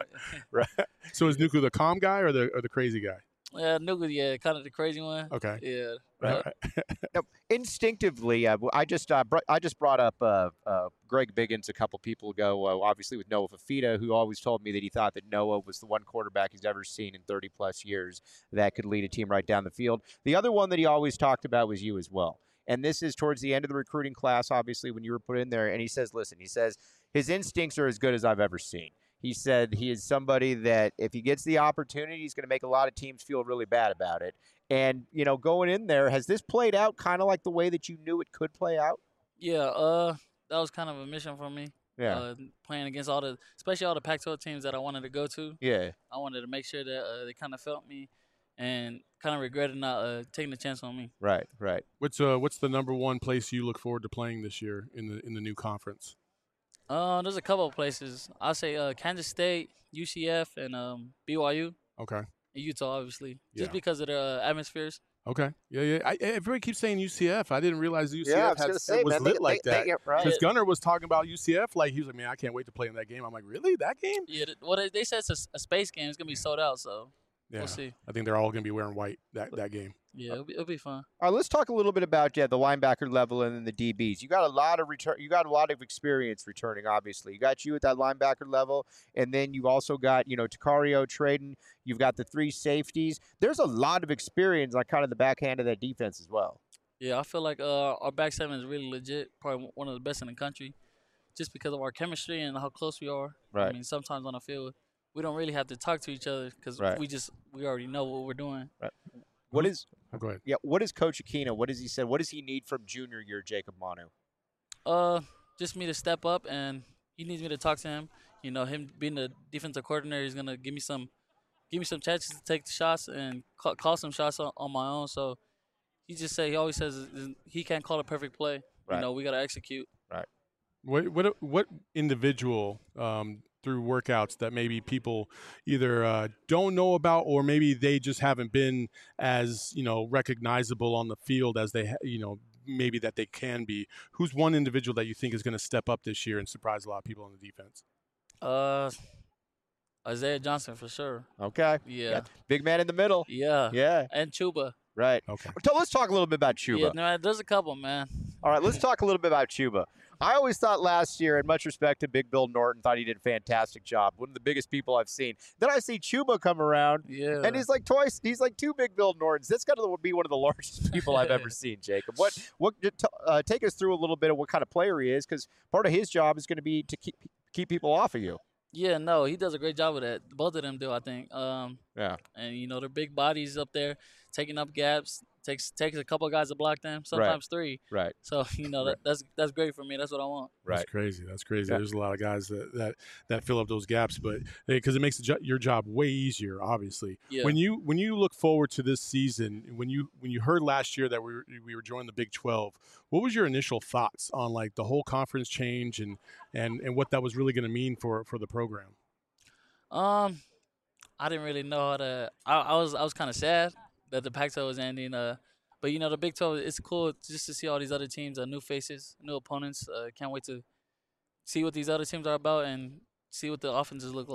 So is Nuku the calm guy or the or the crazy guy? Yeah, Nuku, yeah, kind of the crazy one. Okay. Yeah. All but- right. Now, instinctively, uh, I just uh, br- I just brought up uh, uh, Greg Biggins a couple people ago, uh, obviously with Noah Fafita, who always told me that he thought that Noah was the one quarterback he's ever seen in thirty plus years that could lead a team right down the field. The other one that he always talked about was you as well. And this is towards the end of the recruiting class, obviously, when you were put in there. And he says, listen, he says, his instincts are as good as I've ever seen. He said he is somebody that if he gets the opportunity, he's going to make a lot of teams feel really bad about it. And, you know, going in there, has this played out kind of like the way that you knew it could play out? Yeah, uh, that was kind of a mission for me. Yeah. Uh, playing against all the, especially all the Pac twelve teams that I wanted to go to. Yeah. I wanted to make sure that uh, they kind of felt me and kind of regretted not uh, taking the chance on me. Right, right. What's uh what's the number one place you look forward to playing this year in the in the new conference? Uh, there's a couple of places. I'll say uh, Kansas State, U C F, and um, B Y U, Okay. and Utah, obviously, Yeah. just because of the uh, atmospheres. Okay. Yeah, yeah. I, everybody keeps saying U C F. I didn't realize U C F Yeah, I was had, going to say, was man, lit they, like they, that. They, yeah, right. Because Gunner was talking about U C F, like he was like, "Man, I can't wait to play in that game." I'm like, "Really, that game?" Yeah, th- well, they, they said it's a, s- a space game. It's gonna be sold out, so Yeah. we'll see. I think they're all going to be wearing white that, that game. Yeah, it'll be, it'll be fun. All right, let's talk a little bit about yeah, the linebacker level and then the D Bs. You got a lot of return. You got a lot of experience returning. Obviously, you got you at that linebacker level, and then you also got you know Takario, Traden. You've got the three safeties. There's a lot of experience on kind of the backhand of that defense as well. Yeah, I feel like uh, our back seven is really legit. Probably one of the best in the country, just because of our chemistry and how close we are. Right. I mean, sometimes on the field, we don't really have to talk to each other because Right. we just we already know what we're doing. What is Oh, go ahead. yeah? What is Coach Aquino? What does he say? What does he need from junior year Jacob Manu? Uh, just me to step up, and he needs me to talk to him. You know, him being the defensive coordinator, he's gonna give me some, give me some chances to take the shots and call, call some shots on, on my own. So he just say he always says is- he can't call a perfect play. Right. You know, we gotta execute. What what what individual um, through workouts that maybe people either uh, don't know about or maybe they just haven't been as you know recognizable on the field as they ha- you know maybe that they can be? Who's one individual that you think is going to step up this year and surprise a lot of people on the defense? Uh, Isaiah Johnson for sure. Okay. Yeah, Big man in the middle. yeah, Yeah. and Chuba. Right. Okay. So let's talk a little bit about Chuba. Yeah, no, there's a couple, man. All right, let's talk a little bit about Chuba. I always thought last year, and much respect to Big Bill Norton, thought he did a fantastic job. One of the biggest people I've seen. Then I see Chuba come around, Yeah, and he's like twice. He's like two Big Bill Nortons. That's got to be one of the largest people I've ever seen, Jacob. What? What? Uh, take us through a little bit of what kind of player he is, because part of his job is going to be to keep keep people off of you. yeah, no, he does a great job with that. Both of them do, I think. Um, Yeah. and you know they're big bodies up there, taking up gaps. Takes takes a couple of guys to block them, sometimes three. Right. So you know that, that's that's great for me. That's what I want. That's crazy. That's crazy. Yeah. There's a lot of guys that that, that fill up those gaps, but because it makes the jo- your job way easier, obviously. Yeah. When you when you look forward to this season, when you when you heard last year that we were, we were joining the Big twelve, what was your initial thoughts on like the whole conference change and and and what that was really going to mean for for the program? Um, I didn't really know how to. I, I was I was kind of sad that the Pac twelve was ending. Uh, but you know the Big twelve, it's cool just to see all these other teams, uh, new faces, new opponents. Uh, can't wait to see what these other teams are about and see what the offenses look like.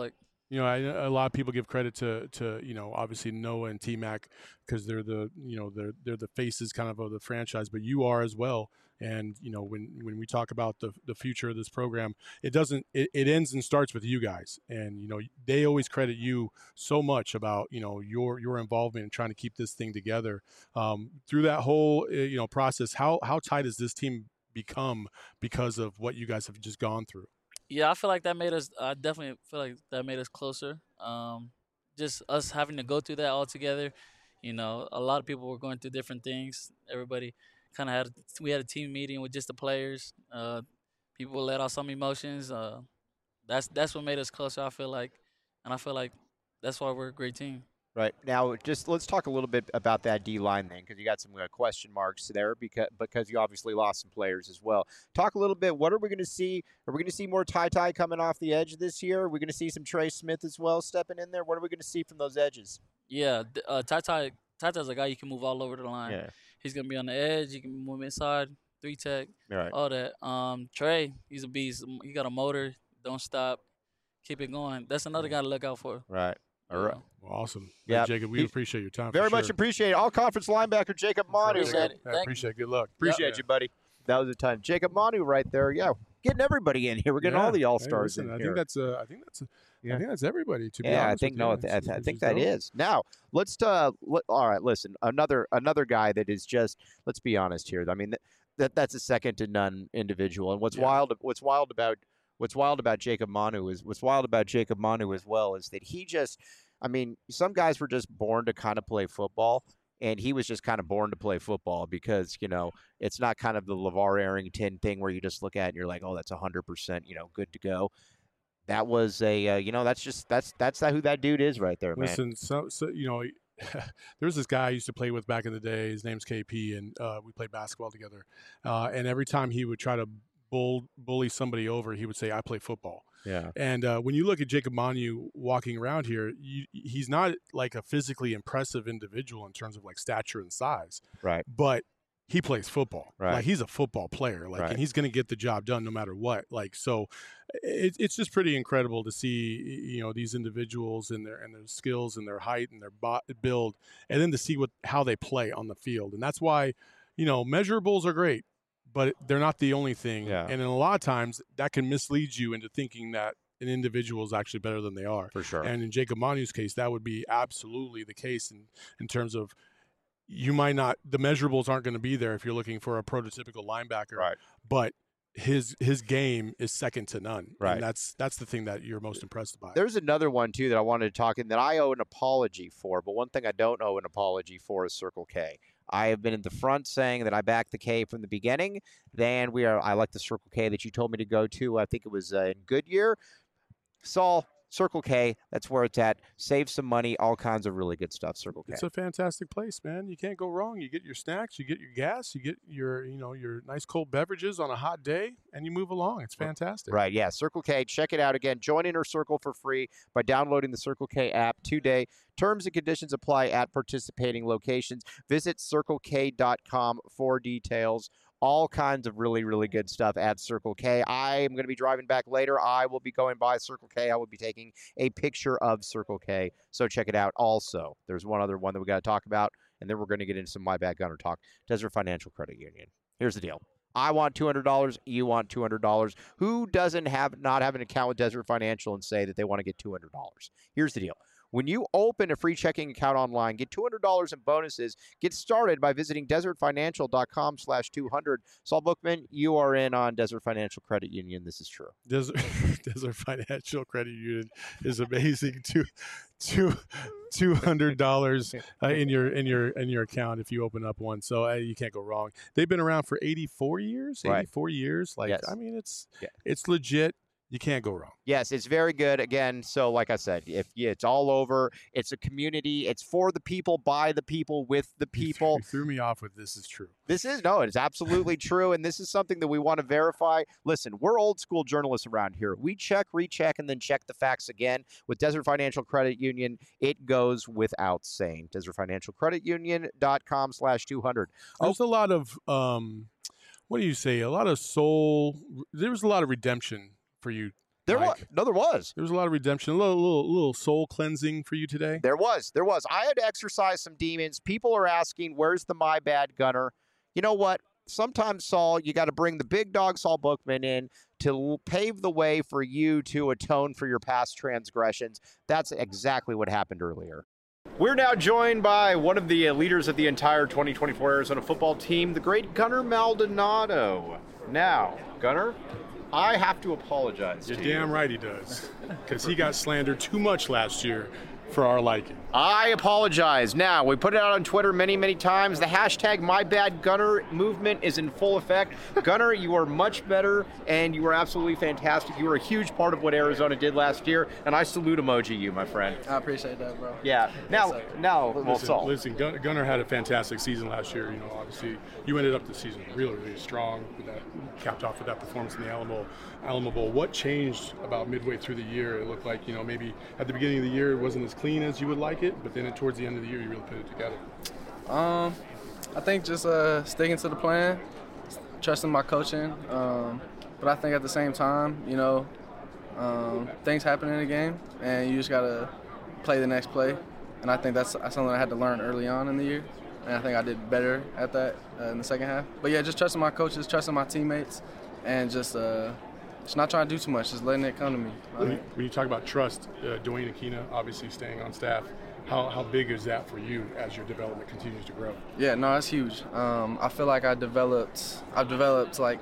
You know, I, a lot of people give credit to, to you know, obviously Noah and T-Mac because they're the, you know, they're they're the faces kind of of the franchise, but you are as well. And you know, when when we talk about the the future of this program, it doesn't it, it ends and starts with you guys. And you know, they always credit you so much about you know your your involvement in trying to keep this thing together um, through that whole you know process. How how tight has this team become because of what you guys have just gone through? Yeah, I feel like that made us. I definitely feel like that made us closer. Um, just us having to go through that all together. You know, a lot of people were going through different things. Everybody kind of had. We had a team meeting with just the players. Uh, people let out some emotions. Uh, that's that's what made us closer. I feel like, and I feel like that's why we're a great team. Right. Now, just let's talk a little bit about that D-line then, because you got some uh, question marks there because because you obviously lost some players as well. Talk a little bit, what are we going to see? Are we going to see more Ty Ty coming off the edge this year? Are we going to see some Trey Smith as well stepping in there? What are we going to see from those edges? Yeah, uh, Ty Ty Ty Ty's a guy you can move all over the line. Yeah. He's going to be on the edge. You can move inside, three tech, Right. all that. Um, Trey, he's a beast. He got a motor. Don't stop. Keep it going. That's another guy to look out for. Right. All right. Well, awesome. Yeah, Hey, Jacob, we he, appreciate your time. Very for much sure. appreciate it. All conference linebacker Jacob Manu. Appreciate it. I Thank appreciate it. Good luck. Appreciate Yeah. you, buddy. That was a time. Jacob Manu right there. Yeah, getting everybody in here. We're getting Yeah. all the all Hey, stars listen, in I here. think that's uh, I think that's a, Yeah. I think that's everybody. To be Yeah, I honest think with no, you. I, th- It's- I it's think just that dope. is. Now let's uh, let, all right. Listen, another another guy that is just. Let's be honest here. I mean, that, that that's a second to none individual. And what's Yeah. wild, what's wild about what's wild about Jacob Manu is what's wild about Jacob Manu as well is that he just. I mean, some guys were just born to kind of play football, and he was just kind of born to play football because, you know, it's not kind of the LeVar Arrington thing where you just look at it and you're like, oh, that's one hundred percent, you know, good to go. That was a, uh, you know, that's just, that's that's who that dude is right there, man. Listen, so, so you know, there's this guy I used to play with back in the day. His name's K P, and uh, we played basketball together. Uh, and every time he would try to bull, bully somebody over, he would say, I play football. Yeah. And uh, when you look at Jacob Manu walking around here, you, he's not like a physically impressive individual in terms of like stature and size. Right. But he plays football. Right. Like he's a football player. Like, Right. and he's going to get the job done no matter what. Like, so it, it's just pretty incredible to see, you know, these individuals and their and their skills and their height and their bo- build, and then to see what how they play on the field. And that's why, you know, measurables are great, but they're not the only thing. Yeah. And in a lot of times that can mislead you into thinking that an individual is actually better than they are. For sure. And in Jacob Manu's case, that would be absolutely the case in, in terms of you might not, the measurables aren't going to be there if you're looking for a prototypical linebacker. Right. But his his game is second to none. Right. And that's that's the thing that you're most impressed by. There's another one, too, that I wanted to talk in that I owe an apology for, but one thing I don't owe an apology for is Circle K. I have been in the front saying that I backed the K from the beginning. Then we are. I like the Circle K that you told me to go to. I think it was uh, in Goodyear. Saul, Circle K, that's where it's at. Save some money, all kinds of really good stuff, Circle K. It's a fantastic place, man. You can't go wrong. You get your snacks, you get your gas, you get your, you know, your nice cold beverages on a hot day, and you move along. It's fantastic. Right, yeah, Circle K. Check it out again. Join Inner Circle for free by downloading the Circle K app today. Terms and conditions apply at participating locations. Visit circle k dot com for details. All kinds of really, really good stuff at Circle K. I am going to be driving back later. I will be going by Circle K. I will be taking a picture of Circle K. So check it out. Also, there's one other one that we got to talk about, and then we're going to get into some My Bad Gunner talk. Desert Financial Credit Union. Here's the deal. I want two hundred dollars. You want two hundred dollars. Who doesn't have not have an account with Desert Financial and say that they want to get two hundred dollars? Here's the deal. When you open a free checking account online, get two hundred dollars in bonuses. Get started by visiting desert financial dot com slash two hundred. Saul Bookman, you are in on Desert Financial Credit Union. This is true. Desert, Desert Financial Credit Union is amazing. Two, two, two hundred dollars uh, in your in your in your account if you open up one. So uh, you can't go wrong. They've been around for eighty-four years. Right. eighty-four years. Like Yes. I mean, it's Yeah. it's legit. You can't go wrong. Yes, it's very good. Again, so like I said, if yeah, it's all over, it's a community. It's for the people, by the people, with the You people. threw, you threw me off with this is true. This is no, it's absolutely true, and this is something that we want to verify. Listen, we're old school journalists around here. We check, recheck, and then check the facts again. With Desert Financial Credit Union, it goes without saying. Desert Financial Credit Union dot com slash two hundred. There's a lot of um, what do you say? A lot of soul. There was a lot of redemption for you There was. Mike. No, there was. There was a lot of redemption, a little, little, little soul cleansing for you today. There was. There was. I had to exercise some demons. People are asking, where's the my bad gunner? You know what? Sometimes, Saul, you got to bring the big dog, Saul Bookman, in to pave the way for you to atone for your past transgressions. That's exactly what happened earlier. We're now joined by one of the leaders of the entire twenty twenty-four Arizona football team, the great Gunnar Maldonado. Now, Gunnar, I have to apologize You're to damn you. right he does, because he got slandered too much last year for our liking. I apologize. Now, we put it out on Twitter many, many times. The hashtag MyBadGunner movement is in full effect. Gunnar, you are much better, and you are absolutely fantastic. You were a huge part of what Arizona did last year, and I salute emoji you, my friend. I appreciate that, bro. Yeah. Now, now, well, Listen, Saul. listen Gun- Gunnar had a fantastic season last year. You know, obviously, you ended up the season really, really strong. With that, capped off with that performance in the Alamo, Alamo Bowl. What changed about midway through the year? It looked like, you know, maybe at the beginning of the year it wasn't as clean as you would like it, but then it, towards the end of the year you really put it together. Um, I think just uh, sticking to the plan, trusting my coaching. Um, but I think at the same time, you know, um, things happen in a game, and you just gotta play the next play. And I think that's something I had to learn early on in the year, and I think I did better at that uh, in the second half. But yeah, just trusting my coaches, trusting my teammates, and just uh, just not trying to do too much, just letting it come to me. When you, when you talk about trust, uh, Dwayne Aquina obviously staying on staff, how, how big is that for you as your development continues to grow? Yeah, no, that's huge. Um, I feel like I developed, I've developed like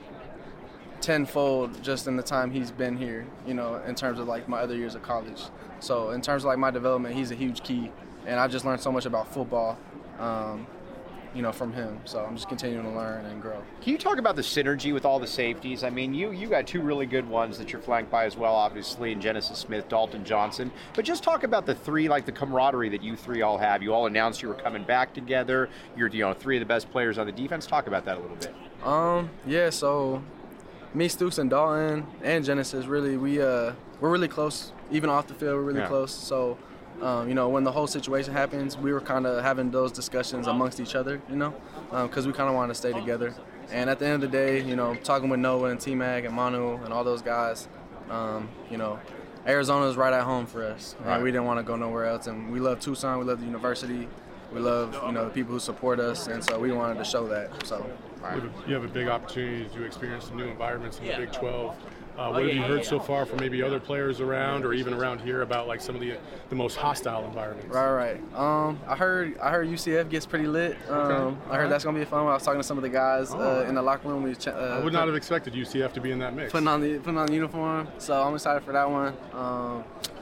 tenfold just in the time he's been here, you know, in terms of like my other years of college. So in terms of like my development, he's a huge key, and I just learned so much about football, um, you know, from him. So I'm just continuing to learn and grow. Can you talk about the synergy with all the safeties? I mean, you you got two really good ones that you're flanked by as well, obviously, in Genesis Smith, Dalton Johnson. But just talk about the three, like the camaraderie that you three all have. You all announced you were coming back together. You're, you know, three of the best players on the defense. Talk about that a little bit. Um, yeah, so me, Stooks, and Dalton, and Genesis, really, we, uh, we're really close. Even off the field, we're really Yeah. close. So, um, you know, when the whole situation happens, we were kind of having those discussions amongst each other, you know, because um, we kind of wanted to stay together. And at the end of the day, you know, talking with Noah and T-Mac and Manu and all those guys, um, you know, Arizona is right at home for us. Right. And we didn't want to go nowhere else. And we love Tucson. We love the university. We love, you know, the people who support us. And so we wanted to show that. So. You have, a, you have a big opportunity to experience some new environments in the Big twelve. Uh, what have you heard so far from maybe other players around, or even around here, about like some of the the most hostile environments? Right, right. Um, I heard I heard U C F gets pretty lit. Um, Okay. I heard that's gonna be fun. I was talking to some of the guys uh, in the locker room. We ch- uh, I would not have expected U C F to be in that mix. putting on the putting on the uniform. So I'm excited for that one. Um,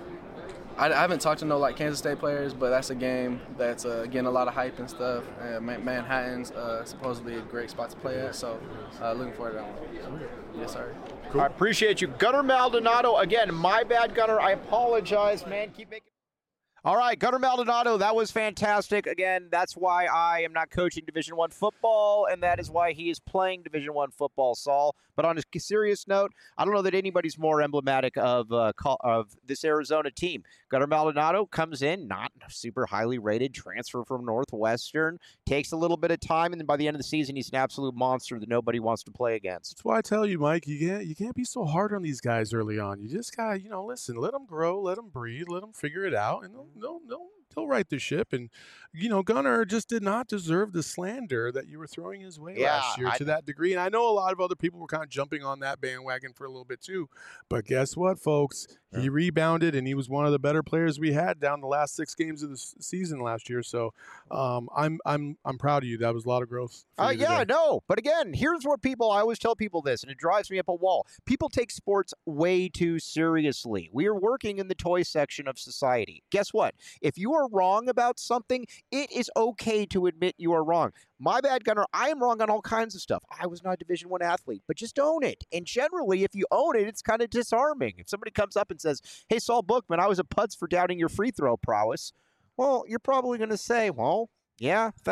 I, I haven't talked to no like Kansas State players, but that's a game that's uh, getting a lot of hype and stuff. Uh, Man- Manhattan's uh, supposedly a great spot to play at. So uh, looking forward to that one. Yes, sir. Cool. I appreciate you. Gunnar Maldonado, again, my bad, Gunnar. I apologize, man. Keep making. All right, Gunnar Maldonado, that was fantastic. Again, that's why I am not coaching Division One football, and that is why he is playing Division One football, Saul. But on a serious note, I don't know that anybody's more emblematic of uh, call, of this Arizona team. Gunnar Maldonado comes in, not super highly rated, transfer from Northwestern, takes a little bit of time, and then by the end of the season, he's an absolute monster that nobody wants to play against. That's why I tell you, Mike, you can't you can't be so hard on these guys early on. You just gotta, you know, listen, let them grow, let them breathe, let them figure it out, and they'll they'll, they'll, they'll right the ship. And you know, Gunnar just did not deserve the slander that you were throwing his way Yeah, last year I- to that degree. And I know a lot of other people were kind of jumping on that bandwagon for a little bit too. But guess what, folks? He rebounded, and he was one of the better players we had down the last six games of the s- season last year. So um, I'm I'm I'm proud of you. That was a lot of growth. For Uh, you yeah, today. no. But again, here's what people, I always tell people this, and it drives me up a wall. People take sports way too seriously. We are working in the toy section of society. Guess what? If you are wrong about something, it is okay to admit you are wrong. My bad, Gunnar. I am wrong on all kinds of stuff. I was not a Division One athlete, but just own it. And generally, if you own it, it's kind of disarming. If somebody comes up and says, hey, Saul Bookman, I was a putz for doubting your free throw prowess, well, you're probably going to say, well, yeah, thanks.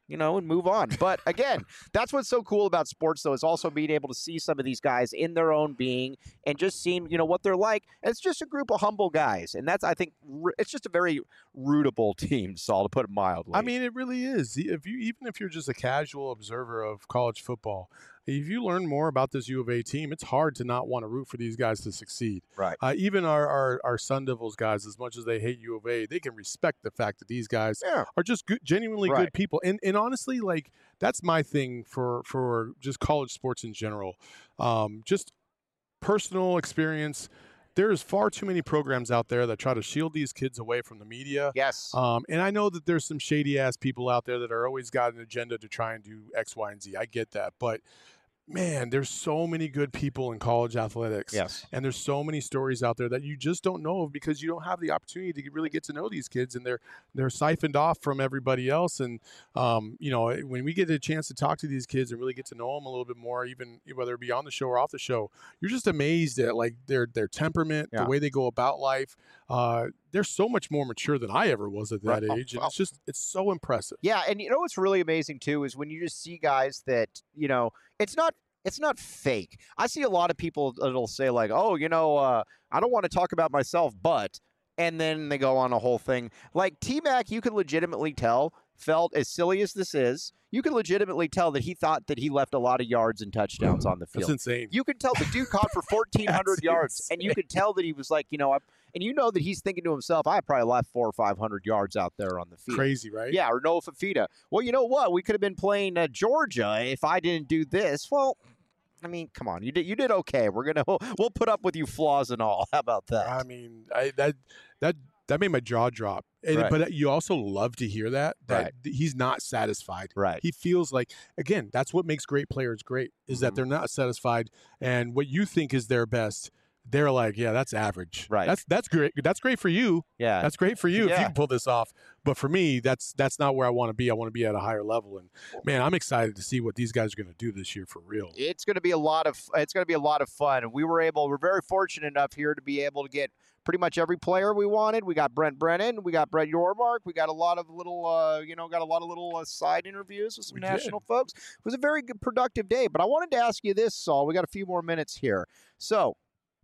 you know, and move on. But again, that's what's so cool about sports, though, is also being able to see some of these guys in their own being and just seeing, you know, what they're like. And it's just a group of humble guys. And that's, I think, it's just a very rootable team, Saul, to put it mildly. I mean, it really is. If you even if you're just a casual observer of college football, if you learn more about this U of A team, it's hard to not want to root for these guys to succeed. Right. Uh, even our, our our Sun Devils guys, as much as they hate U of A, they can respect the fact that these guys Yeah. are just good, genuinely Right. good people. And and honestly, like that's my thing for for just college sports in general. Um, just personal experience. There's far too many programs out there that try to shield these kids away from the media. Yes. Um, and I know that there's some shady ass people out there that are always got an agenda to try and do X, Y, and Z. I get that. But man, there's so many good people in college athletics. Yes. And there's so many stories out there that you just don't know of because you don't have the opportunity to really get to know these kids, and they're they're siphoned off from everybody else. And um, you know, when we get a chance to talk to these kids and really get to know them a little bit more, even whether it be on the show or off the show, you're just amazed at like their their temperament, Yeah. the way they go about life. Uh, they're so much more mature than I ever was at that Right. age, and it's just it's so impressive. Yeah, and you know what's really amazing too is when you just see guys that, you know, it's not it's not fake. I see a lot of people that'll say like, "Oh, you know, uh, I don't want to talk about myself, but," and then they go on a whole thing. Like T-Mac, you can legitimately tell felt, as silly as this is, you can legitimately tell that he thought that he left a lot of yards and touchdowns on the That's field. insane. You can tell the dude caught for fourteen hundred That's yards, and you could tell that he was like, you know, I, and you know that he's thinking to himself, I probably left four or five hundred yards out there on the field. Crazy, right? Yeah, or Noah Fafita. Well, you know what? We could have been playing uh, Georgia if I didn't do this. Well, I mean, come on, you did you did okay. We're gonna we'll put up with you flaws and all. How about that? I mean, I, that that that made my jaw drop. And, Right. But you also love to hear that that Right. th- he's not satisfied. Right. He feels like, again, that's what makes great players great is Mhm. that they're not satisfied, and what you think is their best, they're like, yeah, that's average. Right. That's that's great. That's great for you. Yeah. That's great for you if Yeah. you can pull this off. But for me, that's that's not where I want to be. I want to be at a higher level. And man, I'm excited to see what these guys are going to do this year for real. It's going to be a lot of it's going to be a lot of fun. And we were able, we're very fortunate enough here to be able to get pretty much every player we wanted. We got Brent Brennan, we got Brett Yormark, we got a lot of little, uh, you know, got a lot of little uh, side interviews with some We did. national folks. It was a very good, productive day. But I wanted to ask you this, Saul. We got a few more minutes here. So,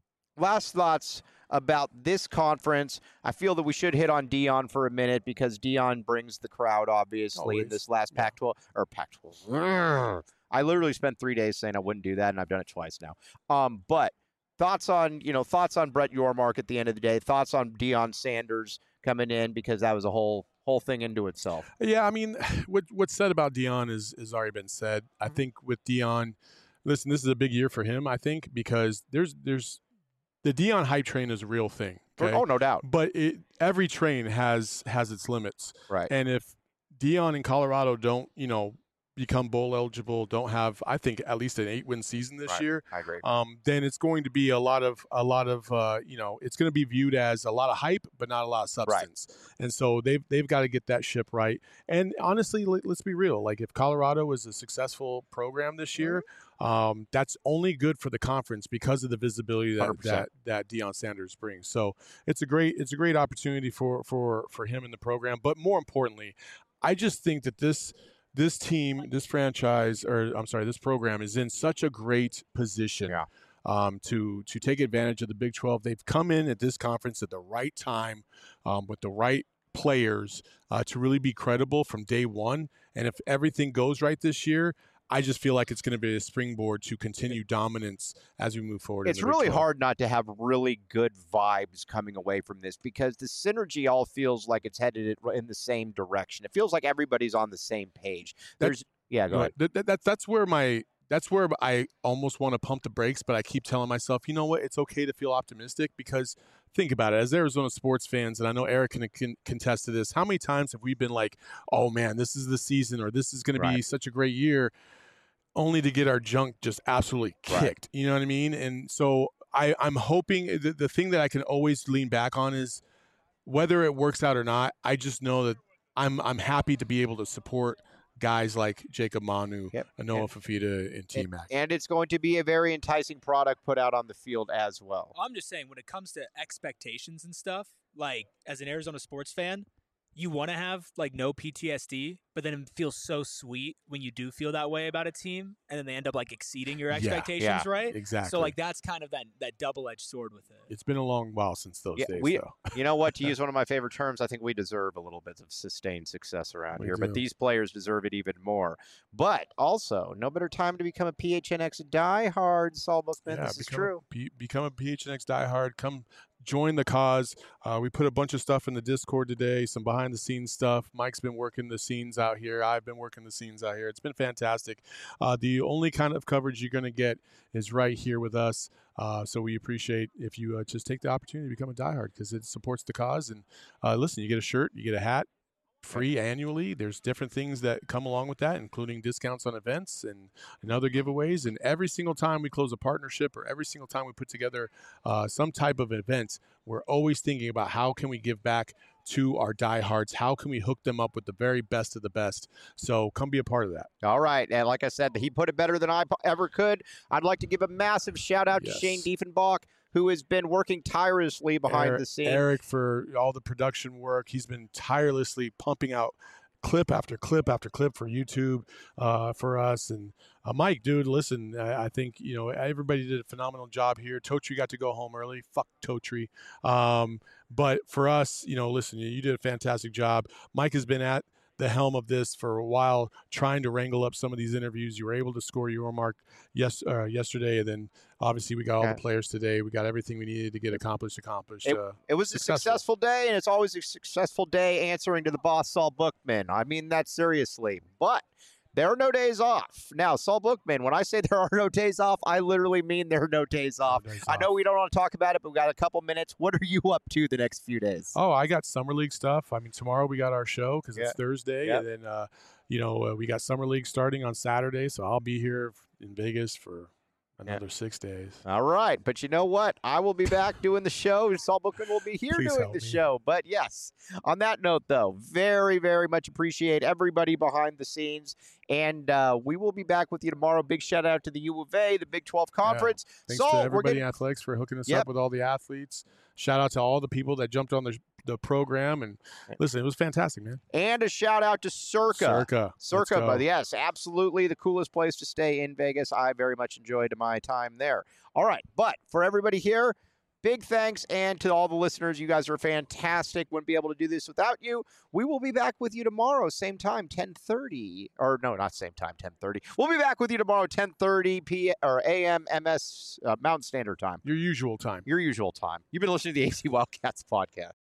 last thoughts about this conference. I feel that we should hit on Dion for a minute because Dion brings the crowd, obviously, in Always. this last Yeah. Pac twelve or Pac twelve. I literally spent three days saying I wouldn't do that, and I've done it twice now. Um, but thoughts on you know thoughts on Brett Yormark at the end of the day. Thoughts on Deion Sanders coming in because that was a whole whole thing into itself. Yeah, I mean, what what's said about Dion is has already been said. I think with Dion, listen, this is a big year for him. I think because there's there's the Dion hype train is a real thing. Okay? Oh, no doubt. But it, every train has has its limits, Right. and if Dion in Colorado don't you know become bowl eligible, don't have I think at least an eight win season this Right. year, I agree. um, then it's going to be a lot of a lot of uh, you know it's going to be viewed as a lot of hype, but not a lot of substance. And so they've they've got to get that ship right. And honestly, let, let's be real. Like if Colorado is a successful program this year, um, that's only good for the conference because of the visibility one that hundred percent. that, that Deion Sanders brings. So it's a great it's a great opportunity for for for him in the program. But more importantly, I just think that this. This team, this franchise, or I'm sorry, this program is in such a great position Yeah. um, to to take advantage of the Big twelve. They've come in at this conference at the right time um, with the right players uh, to really be credible from day one. And if everything goes right this year, I just feel like it's going to be a springboard to continue dominance as we move forward. in It's the Big really twelve. hard not to have really good vibes coming away from this because the synergy all feels like it's headed in the same direction. It feels like everybody's on the same page. That- There's yeah, go Go ahead. ahead. That, that, that's that's where my that's where I almost want to pump the brakes, but I keep telling myself, you know what? It's okay to feel optimistic because think about it. As Arizona sports fans, and I know Eric can, can contest to this, how many times have we been like, "Oh man, this is the season," or "This is going to be Right. such a great year," only to get our junk just absolutely Right. kicked. You know what I mean? And so I, I'm hoping the, the thing that I can always lean back on is whether it works out or not. I just know that I'm I'm happy to be able to support guys like Jacob Manu, Yep. Noah And- Fafita, and T Mac. And it's going to be a very enticing product put out on the field as well. I'm just saying, when it comes to expectations and stuff, like as an Arizona sports fan, you want to have like no P T S D, but then it feels so sweet when you do feel that way about a team, and then they end up like exceeding your Yeah, expectations, yeah, right? exactly. So like that's kind of that that double-edged sword with it. It's been a long while since those Yeah, days, we- though. You know what? To use one of my favorite terms, I think we deserve a little bit of sustained success around We here, do. but these players deserve it even more. But also, no better time to become a P H N X diehard, Saul Bookman. Yeah, this is become a true. P- become a P H N X diehard. Come join the cause. Uh, we put a bunch of stuff in the Discord today, some behind the scenes stuff. Mike's been working the scenes out here. I've been working the scenes out here. It's been fantastic. Uh, the only kind of coverage you're going to get is right here with us. Uh, so we appreciate if you uh, just take the opportunity to become a diehard because it supports the cause. And uh, listen, you get a shirt, you get a hat, free annually. There's different things that come along with that, including discounts on events and, and other giveaways. And every single time we close a partnership or every single time we put together uh, some type of event, we're always thinking about how can we give back to our diehards? How can we hook them up with the very best of the best? So come be a part of that. All right. And like I said, he put it better than I po- ever could. I'd like to give a massive shout out Yes. to Shane Diefenbach, who has been working tirelessly behind Eric, the scenes. Eric for all the production work. He's been tirelessly pumping out clip after clip after clip for YouTube uh, for us. And uh, Mike, dude, listen, I, I think, you know, everybody did a phenomenal job here. Totri got to go home early. Fuck Totri. Um, but for us, you know, listen, you did a fantastic job. Mike has been at the helm of this for a while, trying to wrangle up some of these interviews. You were able to score your mark yes, uh, yesterday, and then obviously we got all Yeah. the players today. We got everything we needed to get accomplished accomplished. It, uh, it was successful. a successful day, and it's always a successful day answering to the boss, Saul Bookman. I mean that seriously. But there are no days off. Now, Saul Bookman, when I say there are no days off, I literally mean there are no days off. days I know off. we don't want to talk about it, but we got a couple minutes. What are you up to the next few days? Oh, I got summer league stuff. I mean, tomorrow we got our show because Yeah. it's Thursday, Yep. and then uh, you know uh, we got summer league starting on Saturday, so I'll be here in Vegas for another six days. All right, but you know what? I will be back doing the show. Saul Bookman will be here Please doing help the me. show. But yes, on that note, though, very, very much appreciate everybody behind the scenes. And uh, we will be back with you tomorrow. Big shout out to the U of A, the Big twelve Conference. Thanks Saul, to we're everybody getting in athletics for hooking us Yep. up with all the athletes. Shout out to all the people that jumped on the the program and listen, it was fantastic, man. and a shout out to Circa. Circa, Let's Circa, go. but yes, absolutely the coolest place to stay in Vegas. I very much enjoyed my time there. All right, but for everybody here, big thanks, and to all the listeners, you guys are fantastic. Wouldn't be able to do this without you. We will be back with you tomorrow, same time, ten thirty, or no, not same time, ten thirty. We'll be back with you tomorrow, ten thirty p or A M M S uh, Mountain Standard Time, Your usual time. your usual time. You've been listening to the A C Wildcats podcast.